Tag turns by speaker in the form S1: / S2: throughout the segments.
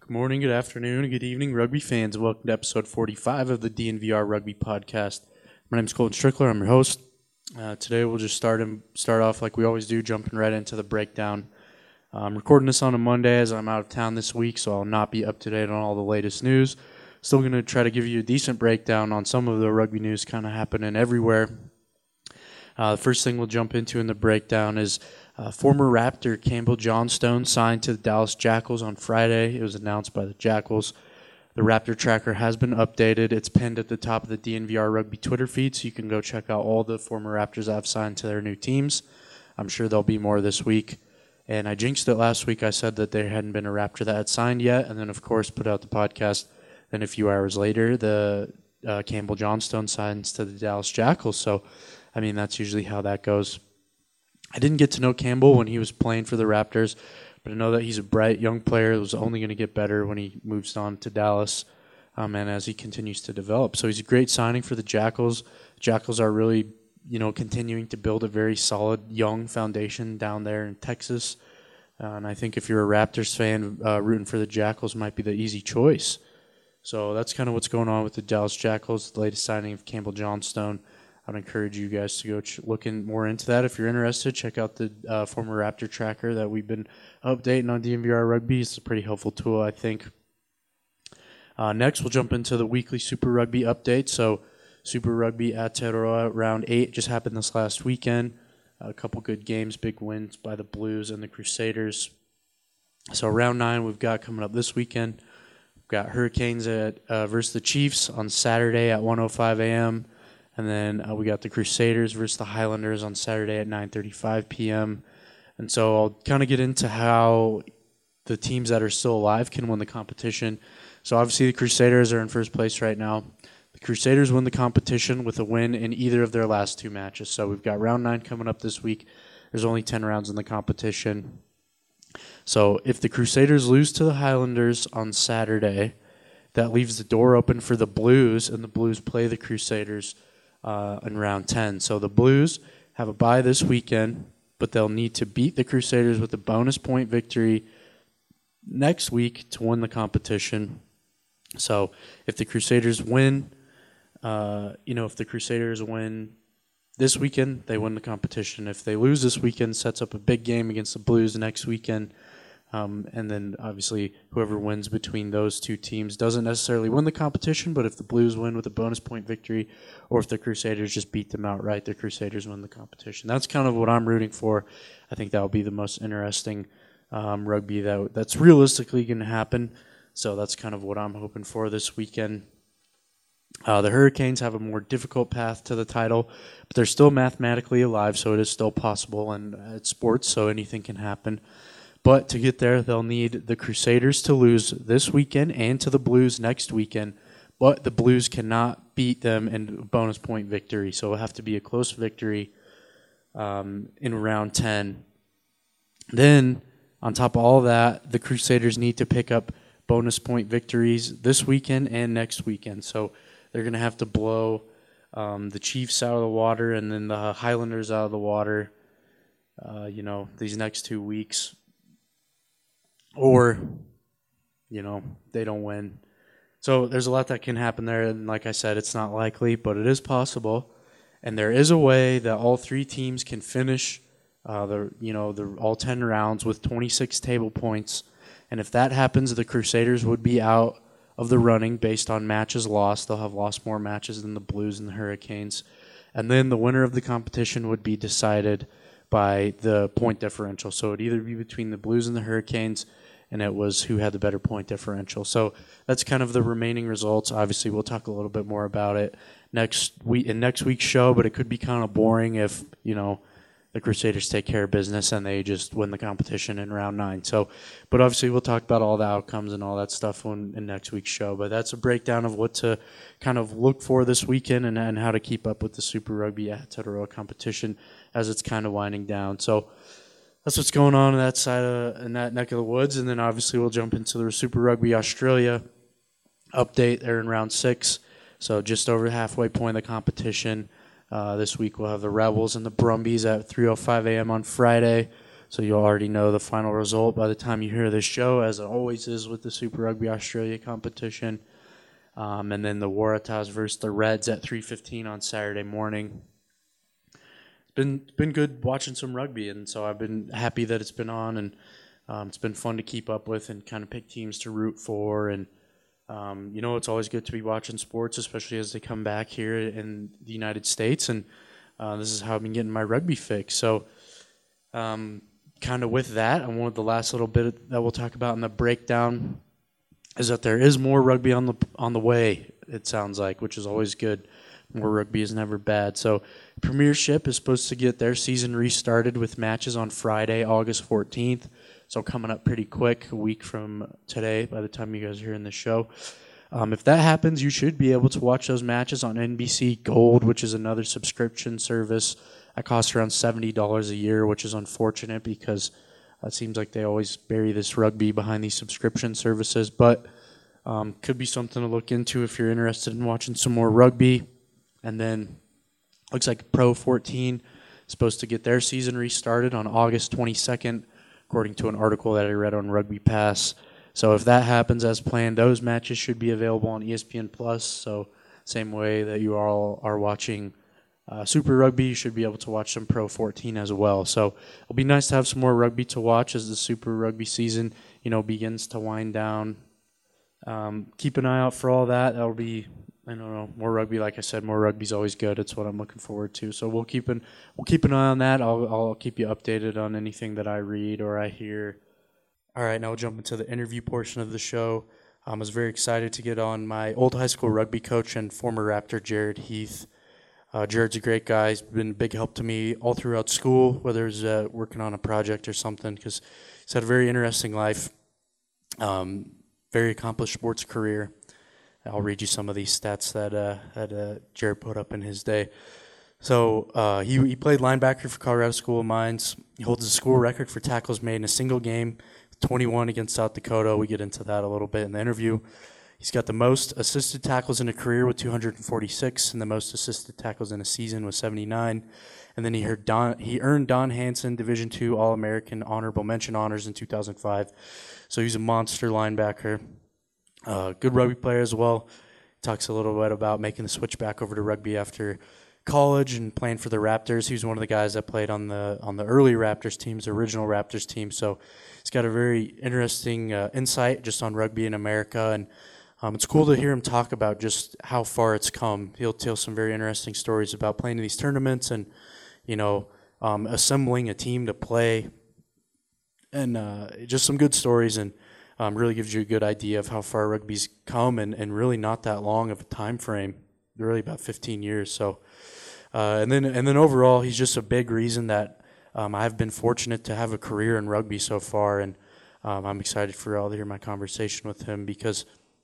S1: Good morning, good afternoon, and good evening, rugby fans. Welcome to episode 45 of the DNVR Rugby Podcast. My name is Colton Strickler. I'm your host. Today we'll just start off like we always do, jumping right into the breakdown. I'm recording this on a Monday as I'm out of town this week, so I'll not be up to date on all the latest news. Still going to try to give you a decent breakdown on some of the rugby news kind of happening everywhere. The first thing we'll jump into in the breakdown is former Raptor Campbell Johnstone signed to the Dallas Jackals on Friday. It was announced by the Jackals. The Raptor tracker has been updated. It's pinned at the top of the DNVR Rugby Twitter feed, so you can go check out all the former Raptors that have signed to their new teams. I'm sure there'll be more this week. And I jinxed it last week. I said that there hadn't been a Raptor that had signed yet, and then, of course, put out the podcast. Then a few hours later, the Campbell Johnstone signs to the Dallas Jackals. So, I mean, that's usually how that goes. I didn't get to know Campbell when he was playing for the Raptors, but I know that he's a bright young player that was only going to get better when he moves on to Dallas and as he continues to develop. So he's a great signing for the Jackals. Jackals are really, continuing to build a very solid young foundation down there in Texas. And I think if you're a Raptors fan, rooting for the Jackals might be the easy choice. So that's kind of what's going on with the Dallas Jackals, the latest signing of Campbell Johnstone. I'd encourage you guys to go look more into that. If you're interested, check out the former Raptor tracker that we've been updating on DNVR Rugby. It's a pretty helpful tool, I think. Next, we'll jump into the weekly Super Rugby update. So Super Rugby Aotearoa Round 8 just happened this last weekend. A couple good games, big wins by the Blues and the Crusaders. So Round 9 we've got coming up this weekend. We've got Hurricanes versus the Chiefs on Saturday at 1:05 a.m., and then we got the Crusaders versus the Highlanders on Saturday at 9:35 p.m. And so I'll kind of get into how the teams that are still alive can win the competition. So obviously the Crusaders are in first place right now. The Crusaders win the competition with a win in either of their last two matches. So we've got round 9 coming up this week. There's only 10 rounds in the competition. So if the Crusaders lose to the Highlanders on Saturday, that leaves the door open for the Blues, and the Blues play the Crusaders in round 10. So the Blues have a bye this weekend, but they'll need to beat the Crusaders with a bonus point victory next week to win the competition. So if the Crusaders win, if the Crusaders win this weekend, they win the competition. If they lose this weekend, sets up a big game against the Blues next weekend. And then, obviously, whoever wins between those two teams doesn't necessarily win the competition, but if the Blues win with a bonus point victory, or if the Crusaders just beat them outright, the Crusaders win the competition. That's kind of what I'm rooting for. I think that will be the most interesting rugby that's realistically going to happen. So that's kind of what I'm hoping for this weekend. The Hurricanes have a more difficult path to the title, but they're still mathematically alive, so it is still possible, and it's sports, so anything can happen. But to get there, they'll need the Crusaders to lose this weekend and to the Blues next weekend. But the Blues cannot beat them in bonus point victory. So it'll have to be a close victory in round 10. Then, on top of all that, the Crusaders need to pick up bonus point victories this weekend and next weekend. So they're going to have to blow the Chiefs out of the water and then the Highlanders out of the water, these next 2 weeks. Or, they don't win. So there's a lot that can happen there. And like I said, it's not likely, but it is possible. And there is a way that all three teams can finish all 10 rounds with 26 table points. And if that happens, the Crusaders would be out of the running based on matches lost. They'll have lost more matches than the Blues and the Hurricanes. And then the winner of the competition would be decided by the point differential. So it'd either be between the Blues and the Hurricanes, and it was who had the better point differential. So that's kind of the remaining results. Obviously, we'll talk a little bit more about it next week's show, but it could be kind of boring if, the Crusaders take care of business and they just win the competition in round 9. So, but obviously we'll talk about all the outcomes and all that stuff in next week's show. But that's a breakdown of what to kind of look for this weekend and how to keep up with the Super Rugby Aotearoa competition as it's kind of winding down. So that's what's going on in that side in that neck of the woods. And then obviously we'll jump into the Super Rugby Australia update. They're in round 6, so just over the halfway point of the competition. This week we'll have the Rebels and the Brumbies at 3:05 a.m. on Friday. So you'll already know the final result by the time you hear this show, as it always is with the Super Rugby Australia competition. And then the Waratahs versus the Reds at 3:15 on Saturday morning. It's been good watching some rugby, and so I've been happy that it's been on, and it's been fun to keep up with and kind of pick teams to root for. And it's always good to be watching sports, especially as they come back here in the United States. And this is how I've been getting my rugby fix. So kind of with that, I wanted the last little bit that we'll talk about in the breakdown is that there is more rugby on the way, it sounds like, which is always good. More rugby is never bad. So Premiership is supposed to get their season restarted with matches on Friday, August 14th. So coming up pretty quick, a week from today by the time you guys are hearing the show. If that happens, you should be able to watch those matches on NBC Gold, which is another subscription service. That costs around $70 a year, which is unfortunate because it seems like they always bury this rugby behind these subscription services. But could be something to look into if you're interested in watching some more rugby. And then looks like Pro 14 is supposed to get their season restarted on August 22nd, according to an article that I read on Rugby Pass. So if that happens as planned, those matches should be available on ESPN Plus. So same way that you all are watching Super Rugby, you should be able to watch some Pro 14 as well. So it'll be nice to have some more rugby to watch as the Super Rugby season, begins to wind down. Keep an eye out for all that. That'll be, more rugby. Like I said, more rugby's always good. It's what I'm looking forward to. So we'll keep an eye on that. I'll keep you updated on anything that I read or I hear. All right, now we'll jump into the interview portion of the show. I was very excited to get on my old high school rugby coach and former Raptor, Jared Heath. Jared's a great guy. He's been a big help to me all throughout school, whether it's working on a project or something, because he's had a very interesting life, very accomplished sports career. I'll read you some of these stats that Jared put up in his day. So he played linebacker for Colorado School of Mines. He holds the school record for tackles made in a single game, 21 against South Dakota. We get into that a little bit in the interview. He's got the most assisted tackles in a career with 246, and the most assisted tackles in a season with 79. And then he earned Don Hanson Division II All-American Honorable Mention honors in 2005. So he's a monster linebacker. Good rugby player as well. Talks a little bit about making the switch back over to rugby after college and playing for the Raptors. He was one of the guys that played on the early Raptors teams, the original Raptors team. So he's got a very interesting insight just on rugby in America, and it's cool to hear him talk about just how far it's come. He'll tell some very interesting stories about playing in these tournaments and, assembling a team to play, and just some good stories, and really gives you a good idea of how far rugby's come and really not that long of a time frame, really about 15 years. So, and then overall, he's just a big reason that I've been fortunate to have a career in rugby so far, and I'm excited for y'all to hear my conversation with him because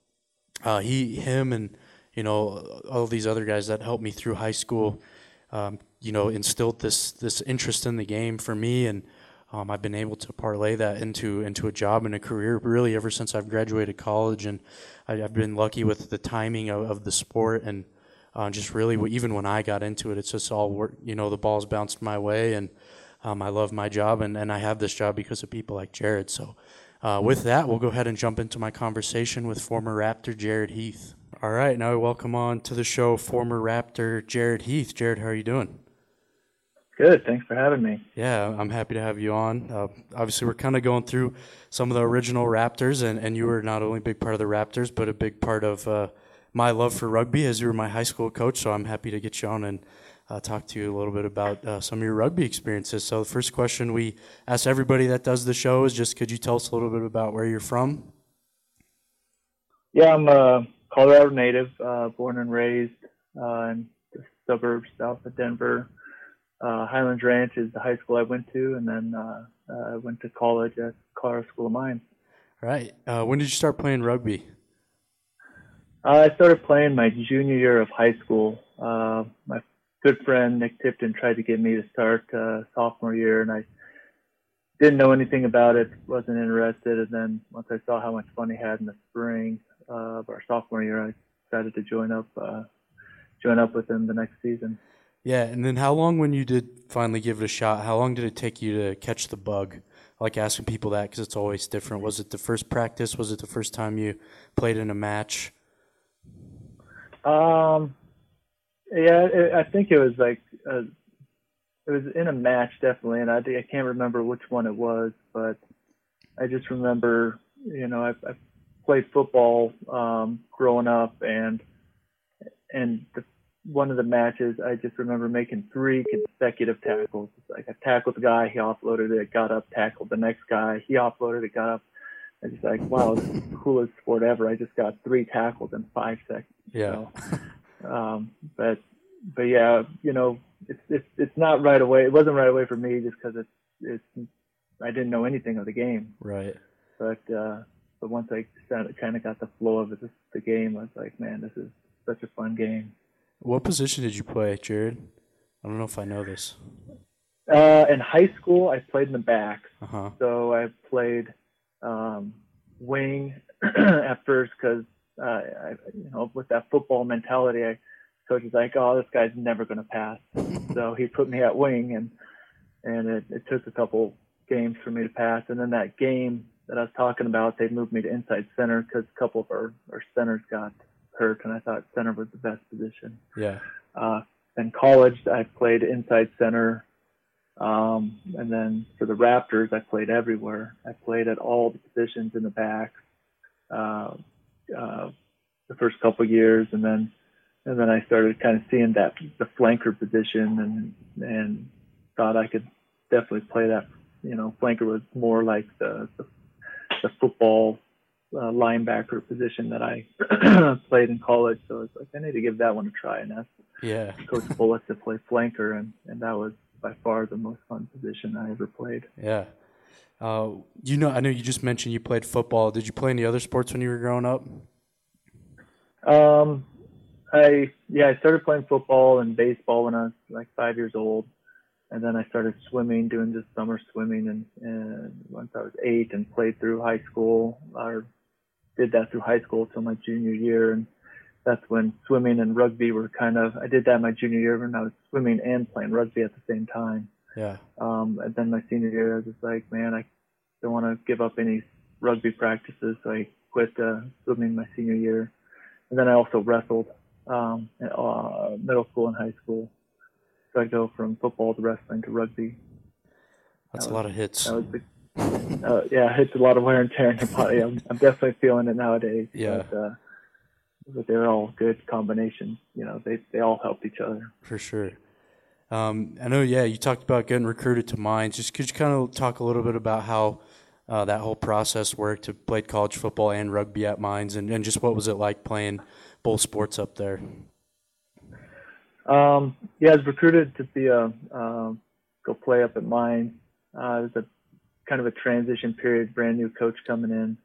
S1: him and all these other guys that helped me through high school, instilled this interest in the game for me, and I've been able to parlay that into a job and a career really ever since I've graduated college, and I've been lucky with the timing of the sport, and just really even when I got into it, it's just all work. The balls bounced my way, and I love my job, and I have this job because of people like Jared. So with that, we'll go ahead and jump into my conversation with former Raptor Jared Heath. All right, now I welcome on to the show former Raptor Jared Heath. Jared, how are you doing?
S2: Good. Thanks for having me.
S1: Yeah, I'm happy to have you on. Obviously, we're kind of going through some of the original Raptors, and you were not only a big part of the Raptors, but a big part of my love for rugby as you were my high school coach. So I'm happy to get you on and talk to you a little bit about some of your rugby experiences. So the first question we ask everybody that does the show is just, could you tell us a little bit about where you're from?
S2: Yeah, I'm a Colorado native, born and raised in the suburbs south of Denver. Highlands Ranch is the high school I went to, and then I went to college at Colorado School of Mines.
S1: Right. When did you start playing rugby?
S2: I started playing my junior year of high school. My good friend Nick Tipton tried to get me to start sophomore year, and I didn't know anything about it, wasn't interested. And then once I saw how much fun he had in the spring of our sophomore year, I decided to join up with him the next season.
S1: Yeah, and then how long, when you did finally give it a shot, how long did it take you to catch the bug? I like asking people that because it's always different. Was it the first practice? Was it the first time you played in a match?
S2: Yeah, I think it was like it was in a match definitely, and I can't remember which one it was, but I just remember, I played football growing up, and one of the matches, I just remember making 3 consecutive tackles. Like I tackled the guy, he offloaded it, got up, tackled the next guy, he offloaded it, got up. I just like, wow, this is the coolest sport ever. I just got 3 tackles in 5 seconds.
S1: Yeah.
S2: So, but yeah, it's not right away. It wasn't right away for me just because I didn't know anything of the game.
S1: Right.
S2: But once I kind of got the flow of the game, I was like, man, this is such a fun game.
S1: What position did you play, Jared? I don't know if I know this.
S2: In high school, I played in the backs.
S1: Uh-huh.
S2: So I played wing at first because, with that football mentality, coach was like, oh, this guy's never going to pass. So he put me at wing, and it took a couple games for me to pass. And then that game that I was talking about, they moved me to inside center because a couple of our centers got hurt, and I thought center was the best position.
S1: Yeah.
S2: In college, I played inside center. And then for the Raptors, I played everywhere. I played at all the positions in the back the first couple of years, and then I started kind of seeing the flanker position, and thought I could definitely play that. Flanker was more like the football linebacker position that I played in college. So it's like I need to give that one a try, and ask Coach Bullock to play flanker, and that was by far the most fun position I ever played.
S1: Yeah. I know you just mentioned you played football. Did you play any other sports when you were growing up?
S2: I started playing football and baseball when I was like 5 years old. And then I started swimming, doing just summer swimming, and once I was 8, and played through high school, or did that through high school till my junior year. And that's when swimming and rugby were I did that my junior year when I was swimming and playing rugby at the same time.
S1: Yeah.
S2: And then my senior year, I was just like, man, I don't want to give up any rugby practices. So I quit swimming my senior year. And then I also wrestled in middle school and high school. So I go from football to wrestling to rugby.
S1: That's a lot of hits.
S2: That was hits a lot of wear and tear in your body. I'm definitely feeling it nowadays.
S1: Yeah.
S2: But they're all good combinations. They all help each other.
S1: For sure. I know, you talked about getting recruited to Mines. Just could you kind of talk a little bit about how that whole process worked to play college football and rugby at Mines, and just what was it like playing both sports up there?
S2: I was recruited to be go play up at Mines. It was a kind of a transition period, brand new coach coming in.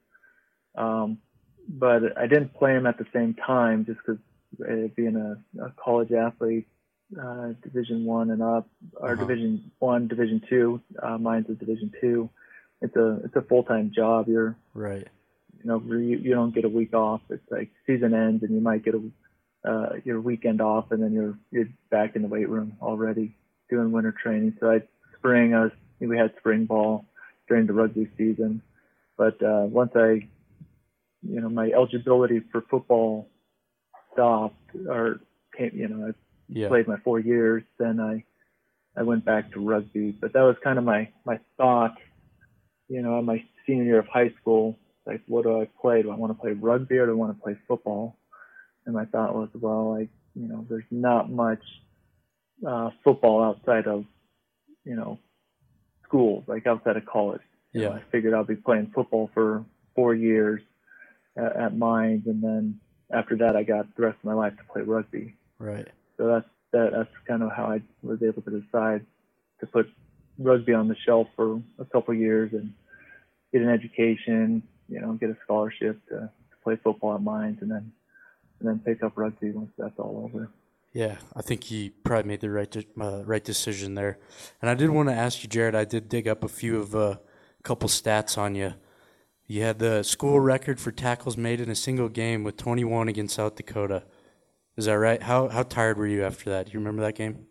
S2: But I didn't play him at the same time just because being a college athlete, Division I and up, or Division I, Division II, Mines is Division II. It's a full-time job. You're
S1: right.
S2: You don't get a week off. It's like season ends and you might get your weekend off, and then you're back in the weight room already doing winter training. So we had spring ball during the rugby season, but once my eligibility for football stopped or came, I played my 4 years, then I went back to rugby. But that was kind of my thought, in my senior year of high school, like, what do I play? Do I want to play rugby or do I want to play football? And my thought was, well, there's not much football outside of, school, like outside of college. I figured I'll be playing football for 4 years at Mines, and then after that, I got the rest of my life to play rugby.
S1: Right.
S2: So that's kind of how I was able to decide to put rugby on the shelf for a couple of years and get an education, get a scholarship to play football at Mines, and then pick up rugby once that's all over. Yeah,
S1: I think he probably made the right decision there. And I did want to ask you, Jared, I did dig up a couple stats on you. You had the school record for tackles made in a single game with 21 against South Dakota. Is that right? How tired were you after that? Do you remember that game?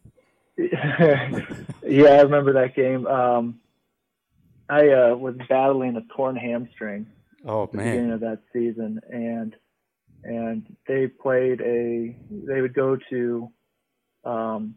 S2: Yeah, I remember that game. I was battling a torn hamstring
S1: Oh
S2: at the
S1: man.
S2: beginning of that season, and they would go to um,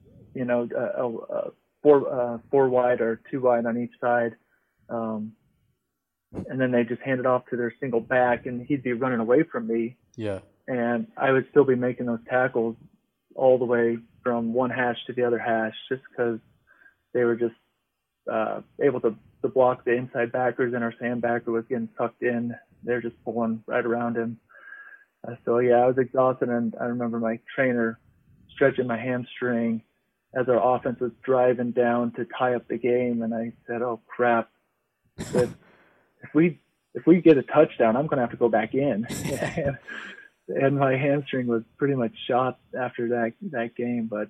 S2: four wide or two wide on each side, um, and then they just hand it off to their single back, and he'd be running away from me,
S1: Yeah.
S2: and I would still be making those tackles all the way from one hash to the other hash, just because they were just able to block the inside backers, and our sandbacker was getting tucked in. They're just pulling right around him. So yeah, I was exhausted, and I remember my trainer stretching my hamstring as our offense was driving down to tie up the game, and I said, "Oh crap! If we get a touchdown, I'm going to have to go back in." And my hamstring was pretty much shot after that game. But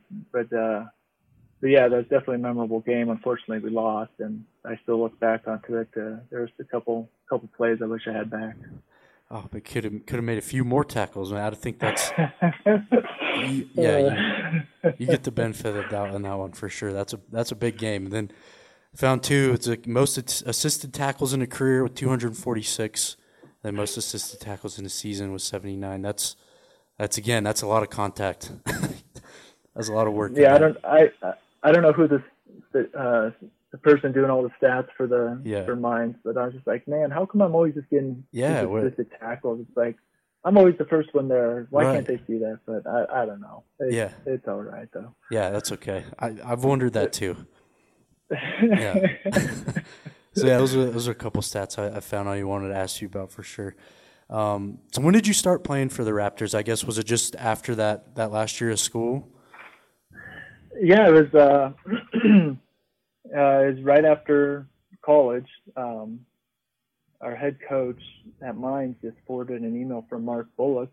S2: yeah, that was definitely a memorable game. Unfortunately, we lost, and I still look back onto it. There was a couple plays I wish I had back.
S1: Oh, but could have made a few more tackles. Man, I think that's you get the benefit of the doubt on that one for sure. That's a big game. And then found two. It's like most assisted tackles in a career with 246. Then most assisted tackles in a season was 79. That's a lot of contact. That's a lot of work.
S2: Yeah, I don't know who the person doing all the stats for mines, but I was just like, man, how come I'm always just getting assisted tackles? It's like I'm always the first one there. Why can't they see that? But I don't know. It's all right though.
S1: Yeah, that's okay. I've wondered that too. Yeah. So yeah, those are a couple stats I found I wanted to ask you about for sure. So when did you start playing for the Raptors? I guess was it just after that last year of school?
S2: Yeah, it was. It was right after college. Our head coach at Mines just forwarded an email from Mark Bullock,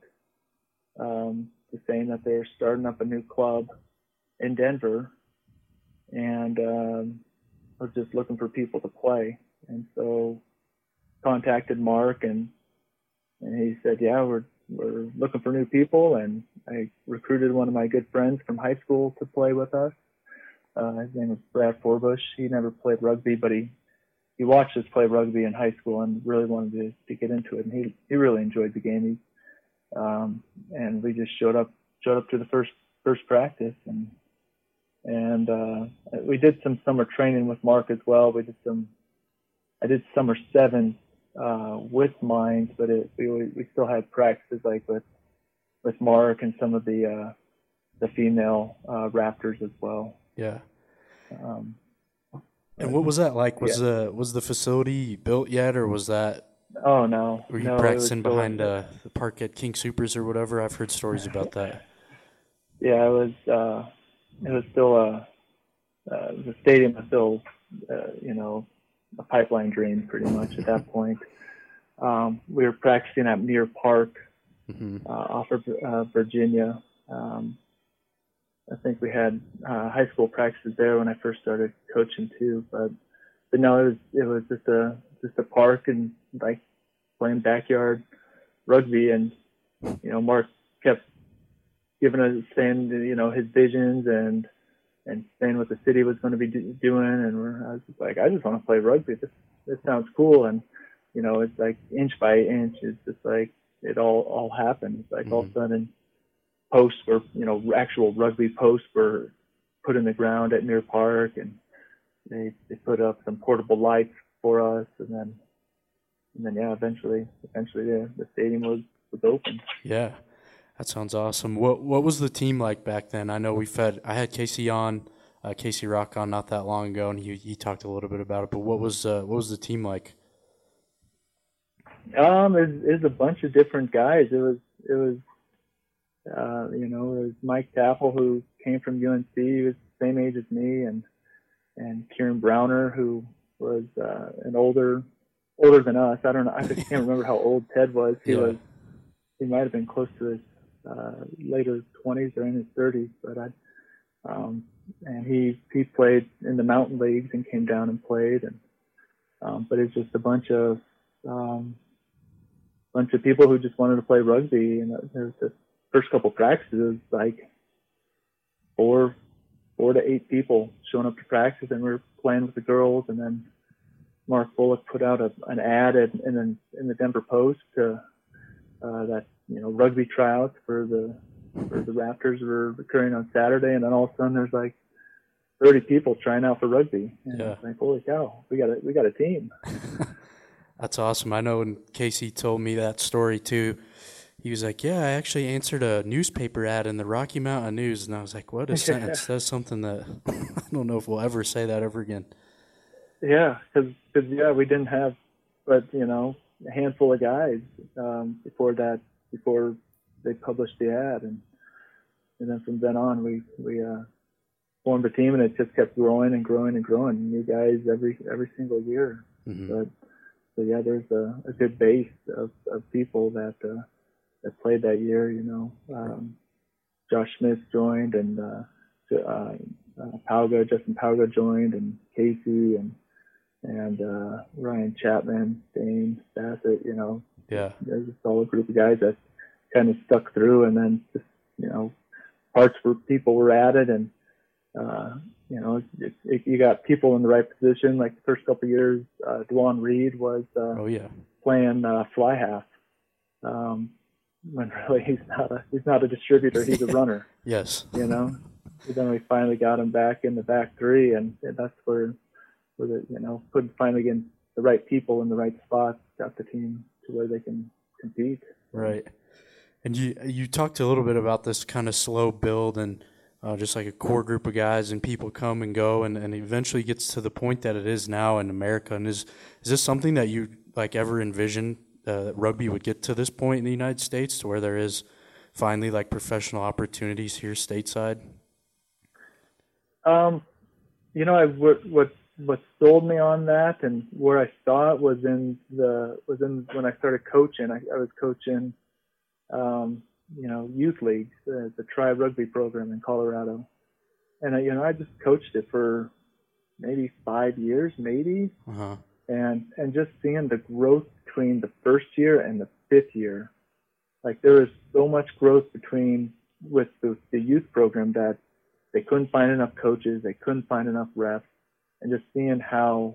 S2: just saying that they're starting up a new club in Denver, and was just looking for people to play. And so contacted Mark, and he said, yeah, we're looking for new people. And I recruited one of my good friends from high school to play with us. His name was Brad Forbush. He never played rugby, but he watched us play rugby in high school and really wanted to get into it. And he really enjoyed the game. And we just showed up to the first practice, and we did some summer training with Mark as well. I did summer 7 with Mines, but we still had practices like with Mark and some of the female Raptors as well.
S1: Yeah. And what was that like? Was the facility built yet, or was that?
S2: Oh no.
S1: Were you practicing behind the park at King Supers or whatever? I've heard stories about that.
S2: Yeah, it was still the stadium was still a pipeline dream pretty much at that point. We were practicing at Muir Park, off of Virginia. I think we had high school practices there when I first started coaching too, but no, it was just a park and like playing backyard rugby, and Mark kept giving us saying his visions and saying what the city was going to be doing, and I was just like, I just want to play rugby. This sounds cool, and it's like inch by inch. It's just like it all happened. It's like all of a sudden posts were, actual rugby posts were put in the ground at Muir Park, and they put up some portable lights for us, and then yeah, eventually the stadium was open.
S1: Yeah, that sounds awesome. What was the team like back then? I know I had Casey Rock on not that long ago, and he talked a little bit about it. But what was the team like?
S2: It was a bunch of different guys. It was it was Mike Taffel, who came from UNC. He was the same age as me, and Kieran Browner, who was an older than us. I don't know. I can't remember how old Ted was. He might have been close to his later 20s or in his 30s, but and he played in the mountain leagues and came down and played, and but it's just a bunch of people who just wanted to play rugby, and there was just first couple practices, like 4 to 8 people showing up to practice, and we were playing with the girls. And then Mark Bullock put out an ad in the Denver Post that rugby tryouts for the Raptors were occurring on Saturday, and then all of a sudden there's like 30 people trying out for rugby. And it's like, holy cow, we got a team.
S1: That's awesome. I know when Casey told me that story too, he was like, yeah, I actually answered a newspaper ad in the Rocky Mountain News. And I was like, what a sentence. That's something that I don't know if we'll ever say that ever again.
S2: Yeah, because we didn't have but a handful of guys before they published the ad. And then from then on, we formed a team, and it just kept growing and growing and growing. New guys every single year.
S1: Mm-hmm.
S2: So yeah, there's a good base of people that played that year. Josh Smith joined, and Justin Pauga joined, and Casey and Ryan Chapman, Dane Bassett. There's a solid group of guys that kind of stuck through, and then just parts where people were added, and you got people in the right position. Like the first couple of years, Dwan Reed was playing fly half, when really he's not a distributor, he's a runner.
S1: Yes.
S2: So then we finally got him back in the back three, and that's where finally getting the right people in the right spots got the team to where they can compete.
S1: Right. And you talked a little bit about this kind of slow build and just like a core group of guys, and people come and go, and eventually gets to the point that it is now in America. And is this something that you like ever envisioned that rugby would get to this point in the United States, to where there is finally like professional opportunities here stateside?
S2: What sold me on that, and where I saw it was in when I started coaching. I was coaching youth leagues, the Tri Rugby program in Colorado, and I just coached it for maybe 5 years, maybe, and just seeing the growth between the first year and the 5th year, like there was so much growth with the youth program that they couldn't find enough coaches, they couldn't find enough refs, and just seeing how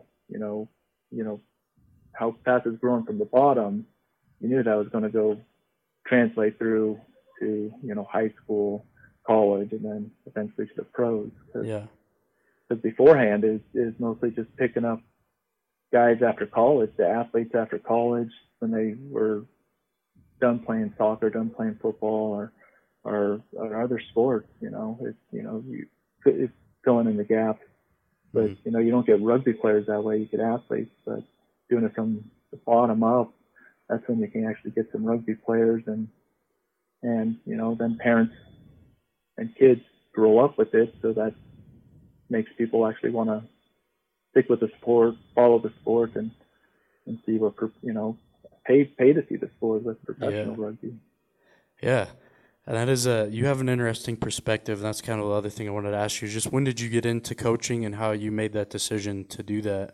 S2: how fast it's growing from the bottom, you knew that was going to go translate through to high school, college, and then eventually to the pros. Because beforehand is mostly just picking up guys after college, the athletes after college, when they were done playing soccer, done playing football, or other sports. It's filling in the gaps. But you don't get rugby players that way. You get athletes, but doing it from the bottom up, that's when you can actually get some rugby players, and then parents and kids grow up with it, so that makes people actually want to stick with the sport, follow the sport, and see what pay to see the sport with professional rugby.
S1: Yeah. And that is you have an interesting perspective. That's kind of the other thing I wanted to ask you. Just when did you get into coaching, and how you made that decision to do that?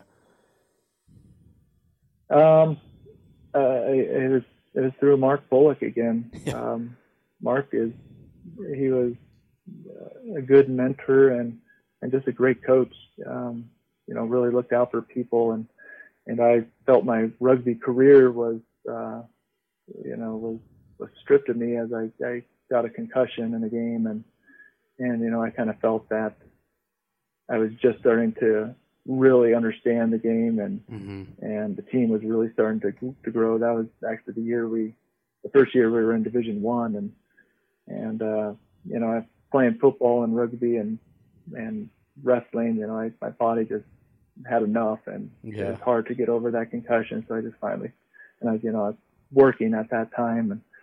S2: It was through Mark Bullock again.
S1: Yeah.
S2: Mark he was a good mentor and just a great coach. Really looked out for people, and I felt my rugby career was stripped of me as I got a concussion in a game, and I kind of felt that I was just starting to really understand the game, and the team was really starting to grow. That was actually the first year we were in Division I, and playing football and rugby and wrestling, my body just had enough, and it was hard to get over that concussion. So I just finally, and I was working at that time, and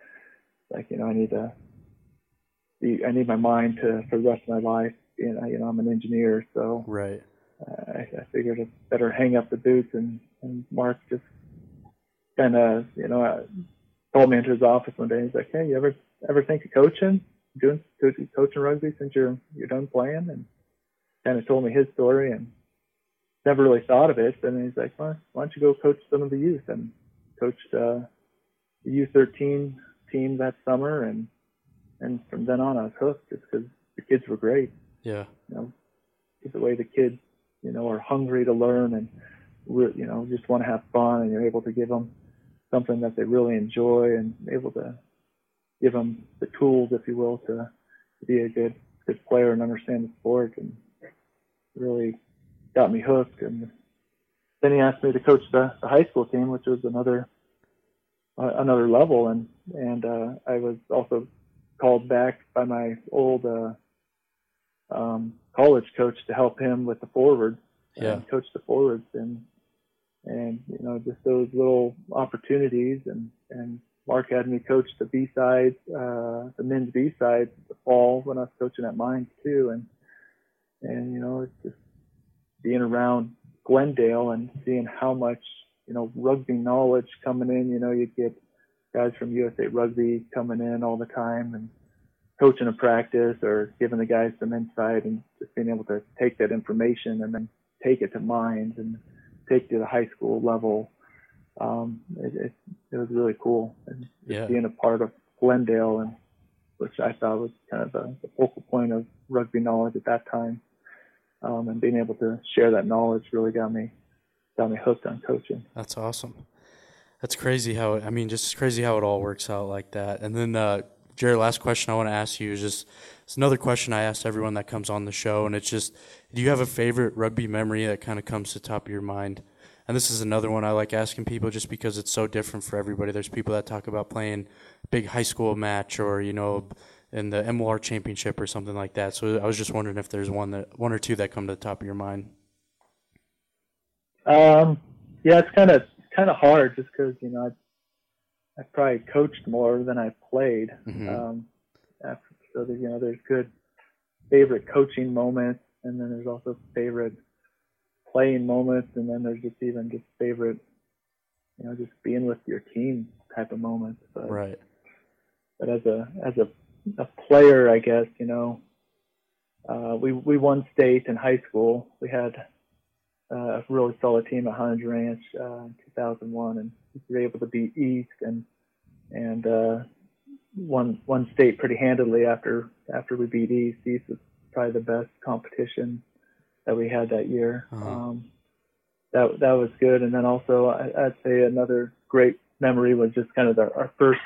S2: I need my mind for the rest of my life. I'm an engineer, so
S1: right.
S2: I figured I'd better hang up the boots, and Mark just kind of called me into his office one day. He's like, "Hey, you ever think of coaching rugby since you're done playing?" And kind of told me his story, and never really thought of it. And he's like, "Well, why don't you go coach some of the youth?" And coached the U13 team that summer, and And from then on, I was hooked just because the kids were great.
S1: Yeah.
S2: Just the way the kids, are hungry to learn and, just want to have fun, and you're able to give them something that they really enjoy and able to give them the tools, if you will, to be a good player and understand the sport, and really got me hooked. And then he asked me to coach the high school team, which was another level. And I was also called back by my old college coach to help him with the forwards.
S1: Yeah.
S2: Coach the forwards and just those little opportunities. And Mark had me coach the B-sides, the men's B-sides the fall when I was coaching at Mines too. And it's just being around Glendale and seeing how much, rugby knowledge coming in. You get guys from USA Rugby coming in all the time and coaching a practice or giving the guys some insight, and just being able to take that information and then take it to Mines and take it to the high school level. It was really cool. And just being a part of Glendale, and which I thought was kind of the focal point of rugby knowledge at that time. And being able to share that knowledge really got me hooked on coaching.
S1: That's awesome. That's crazy just crazy how it all works out like that. And then, Jared, last question I want to ask you is it's another question I ask everyone that comes on the show, and it's just, do you have a favorite rugby memory that kind of comes to the top of your mind? And this is another one I like asking people just because it's so different for everybody. There's people that talk about playing a big high school match or, in the MLR championship or something like that. So I was just wondering if there's one or two that come to the top of your mind.
S2: Yeah, it's kind of hard just because, I probably coached more than I played.
S1: Mm-hmm.
S2: So there's good favorite coaching moments, and then there's also favorite playing moments, and then there's just favorite, just being with your team type of moments. But,
S1: right.
S2: But as a player, I guess, we won state in high school. We had a really solid team at Hunter's Ranch in 2001, and we were able to beat East and won state pretty handily after we beat East. East was probably the best competition that we had that year.
S1: Uh-huh.
S2: That was good. And then also I'd say another great memory was just kind of our first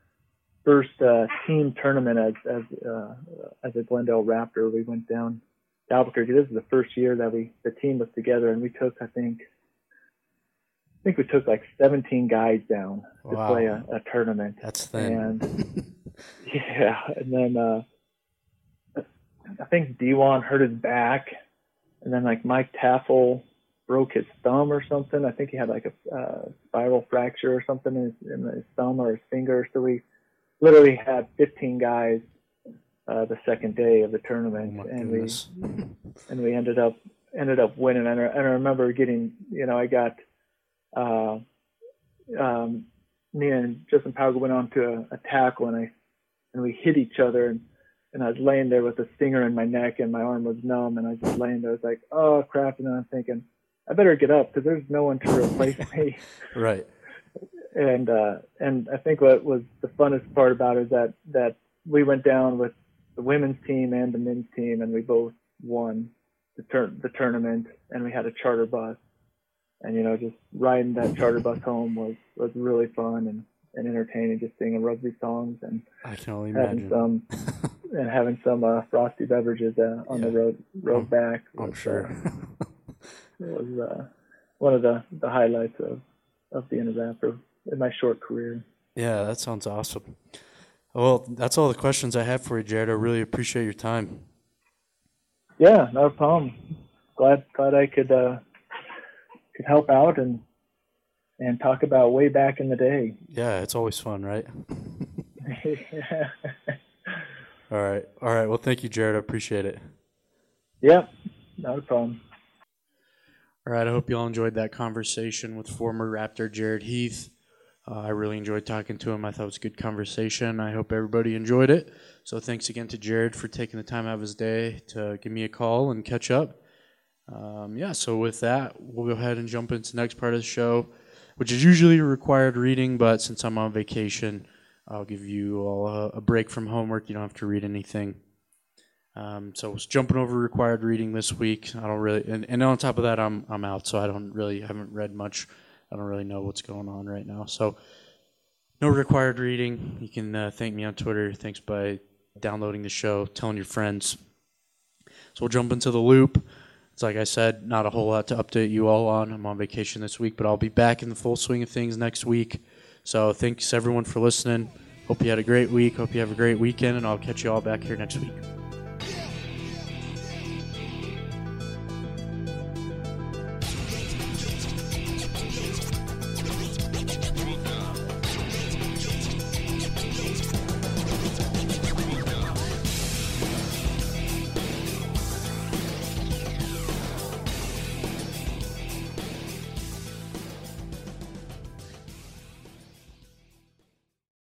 S2: team tournament as a Glendale Raptor. We went down to Albuquerque. This is the first year that the team was together, and we took, I think we took like 17 guys down to play a tournament.
S1: That's thin.
S2: And yeah, and then I think D1 hurt his back, and then like Mike Taffel broke his thumb or something. I think he had like a spiral fracture or something in his thumb or his finger. So we literally had 15 guys the second day of the tournament, and we ended up winning. And I remember getting, I got me and Justin Powell went on to a tackle, and we hit each other, and I was laying there with a stinger in my neck, and my arm was numb, and I was just laying there. I was like, oh crap, and then I'm thinking, I better get up because there's no one to replace me.
S1: Right.
S2: And I think what was the funnest part about it is that we went down with the women's team and the men's team, and we both won the tournament, and we had a charter bus. And, just riding that charter bus home was really fun and entertaining, just singing rugby songs and
S1: I can only imagine.
S2: having some frosty beverages on the road back.
S1: I'm sure.
S2: It was one of the highlights of being a Raptor in my short career.
S1: Yeah, that sounds awesome. Well, that's all the questions I have for you, Jared. I really appreciate your time.
S2: Yeah, no problem. Glad I could help out and talk about way back in the day.
S1: Yeah, it's always fun, right?
S2: Yeah.
S1: All right. Well, thank you, Jared. I appreciate it.
S2: Yeah, not a problem.
S1: All right. I hope you all enjoyed that conversation with former Raptor Jared Heath. I really enjoyed talking to him. I thought it was a good conversation. I hope everybody enjoyed it. So thanks again to Jared for taking the time out of his day to give me a call and catch up. So with that, we'll go ahead and jump into the next part of the show, which is usually a required reading, but since I'm on vacation, I'll give you all a break from homework. You don't have to read anything. So I was jumping over required reading this week. I don't really, and on top of that, I'm out, so I haven't read much. I don't really know what's going on right now. So no required reading. You can thank me on Twitter. Thanks by downloading the show, telling your friends. So we'll jump into the loop. It's like I said, not a whole lot to update you all on. I'm on vacation this week, but I'll be back in the full swing of things next week. So thanks everyone for listening. Hope you had a great week. Hope you have a great weekend, and I'll catch you all back here next week.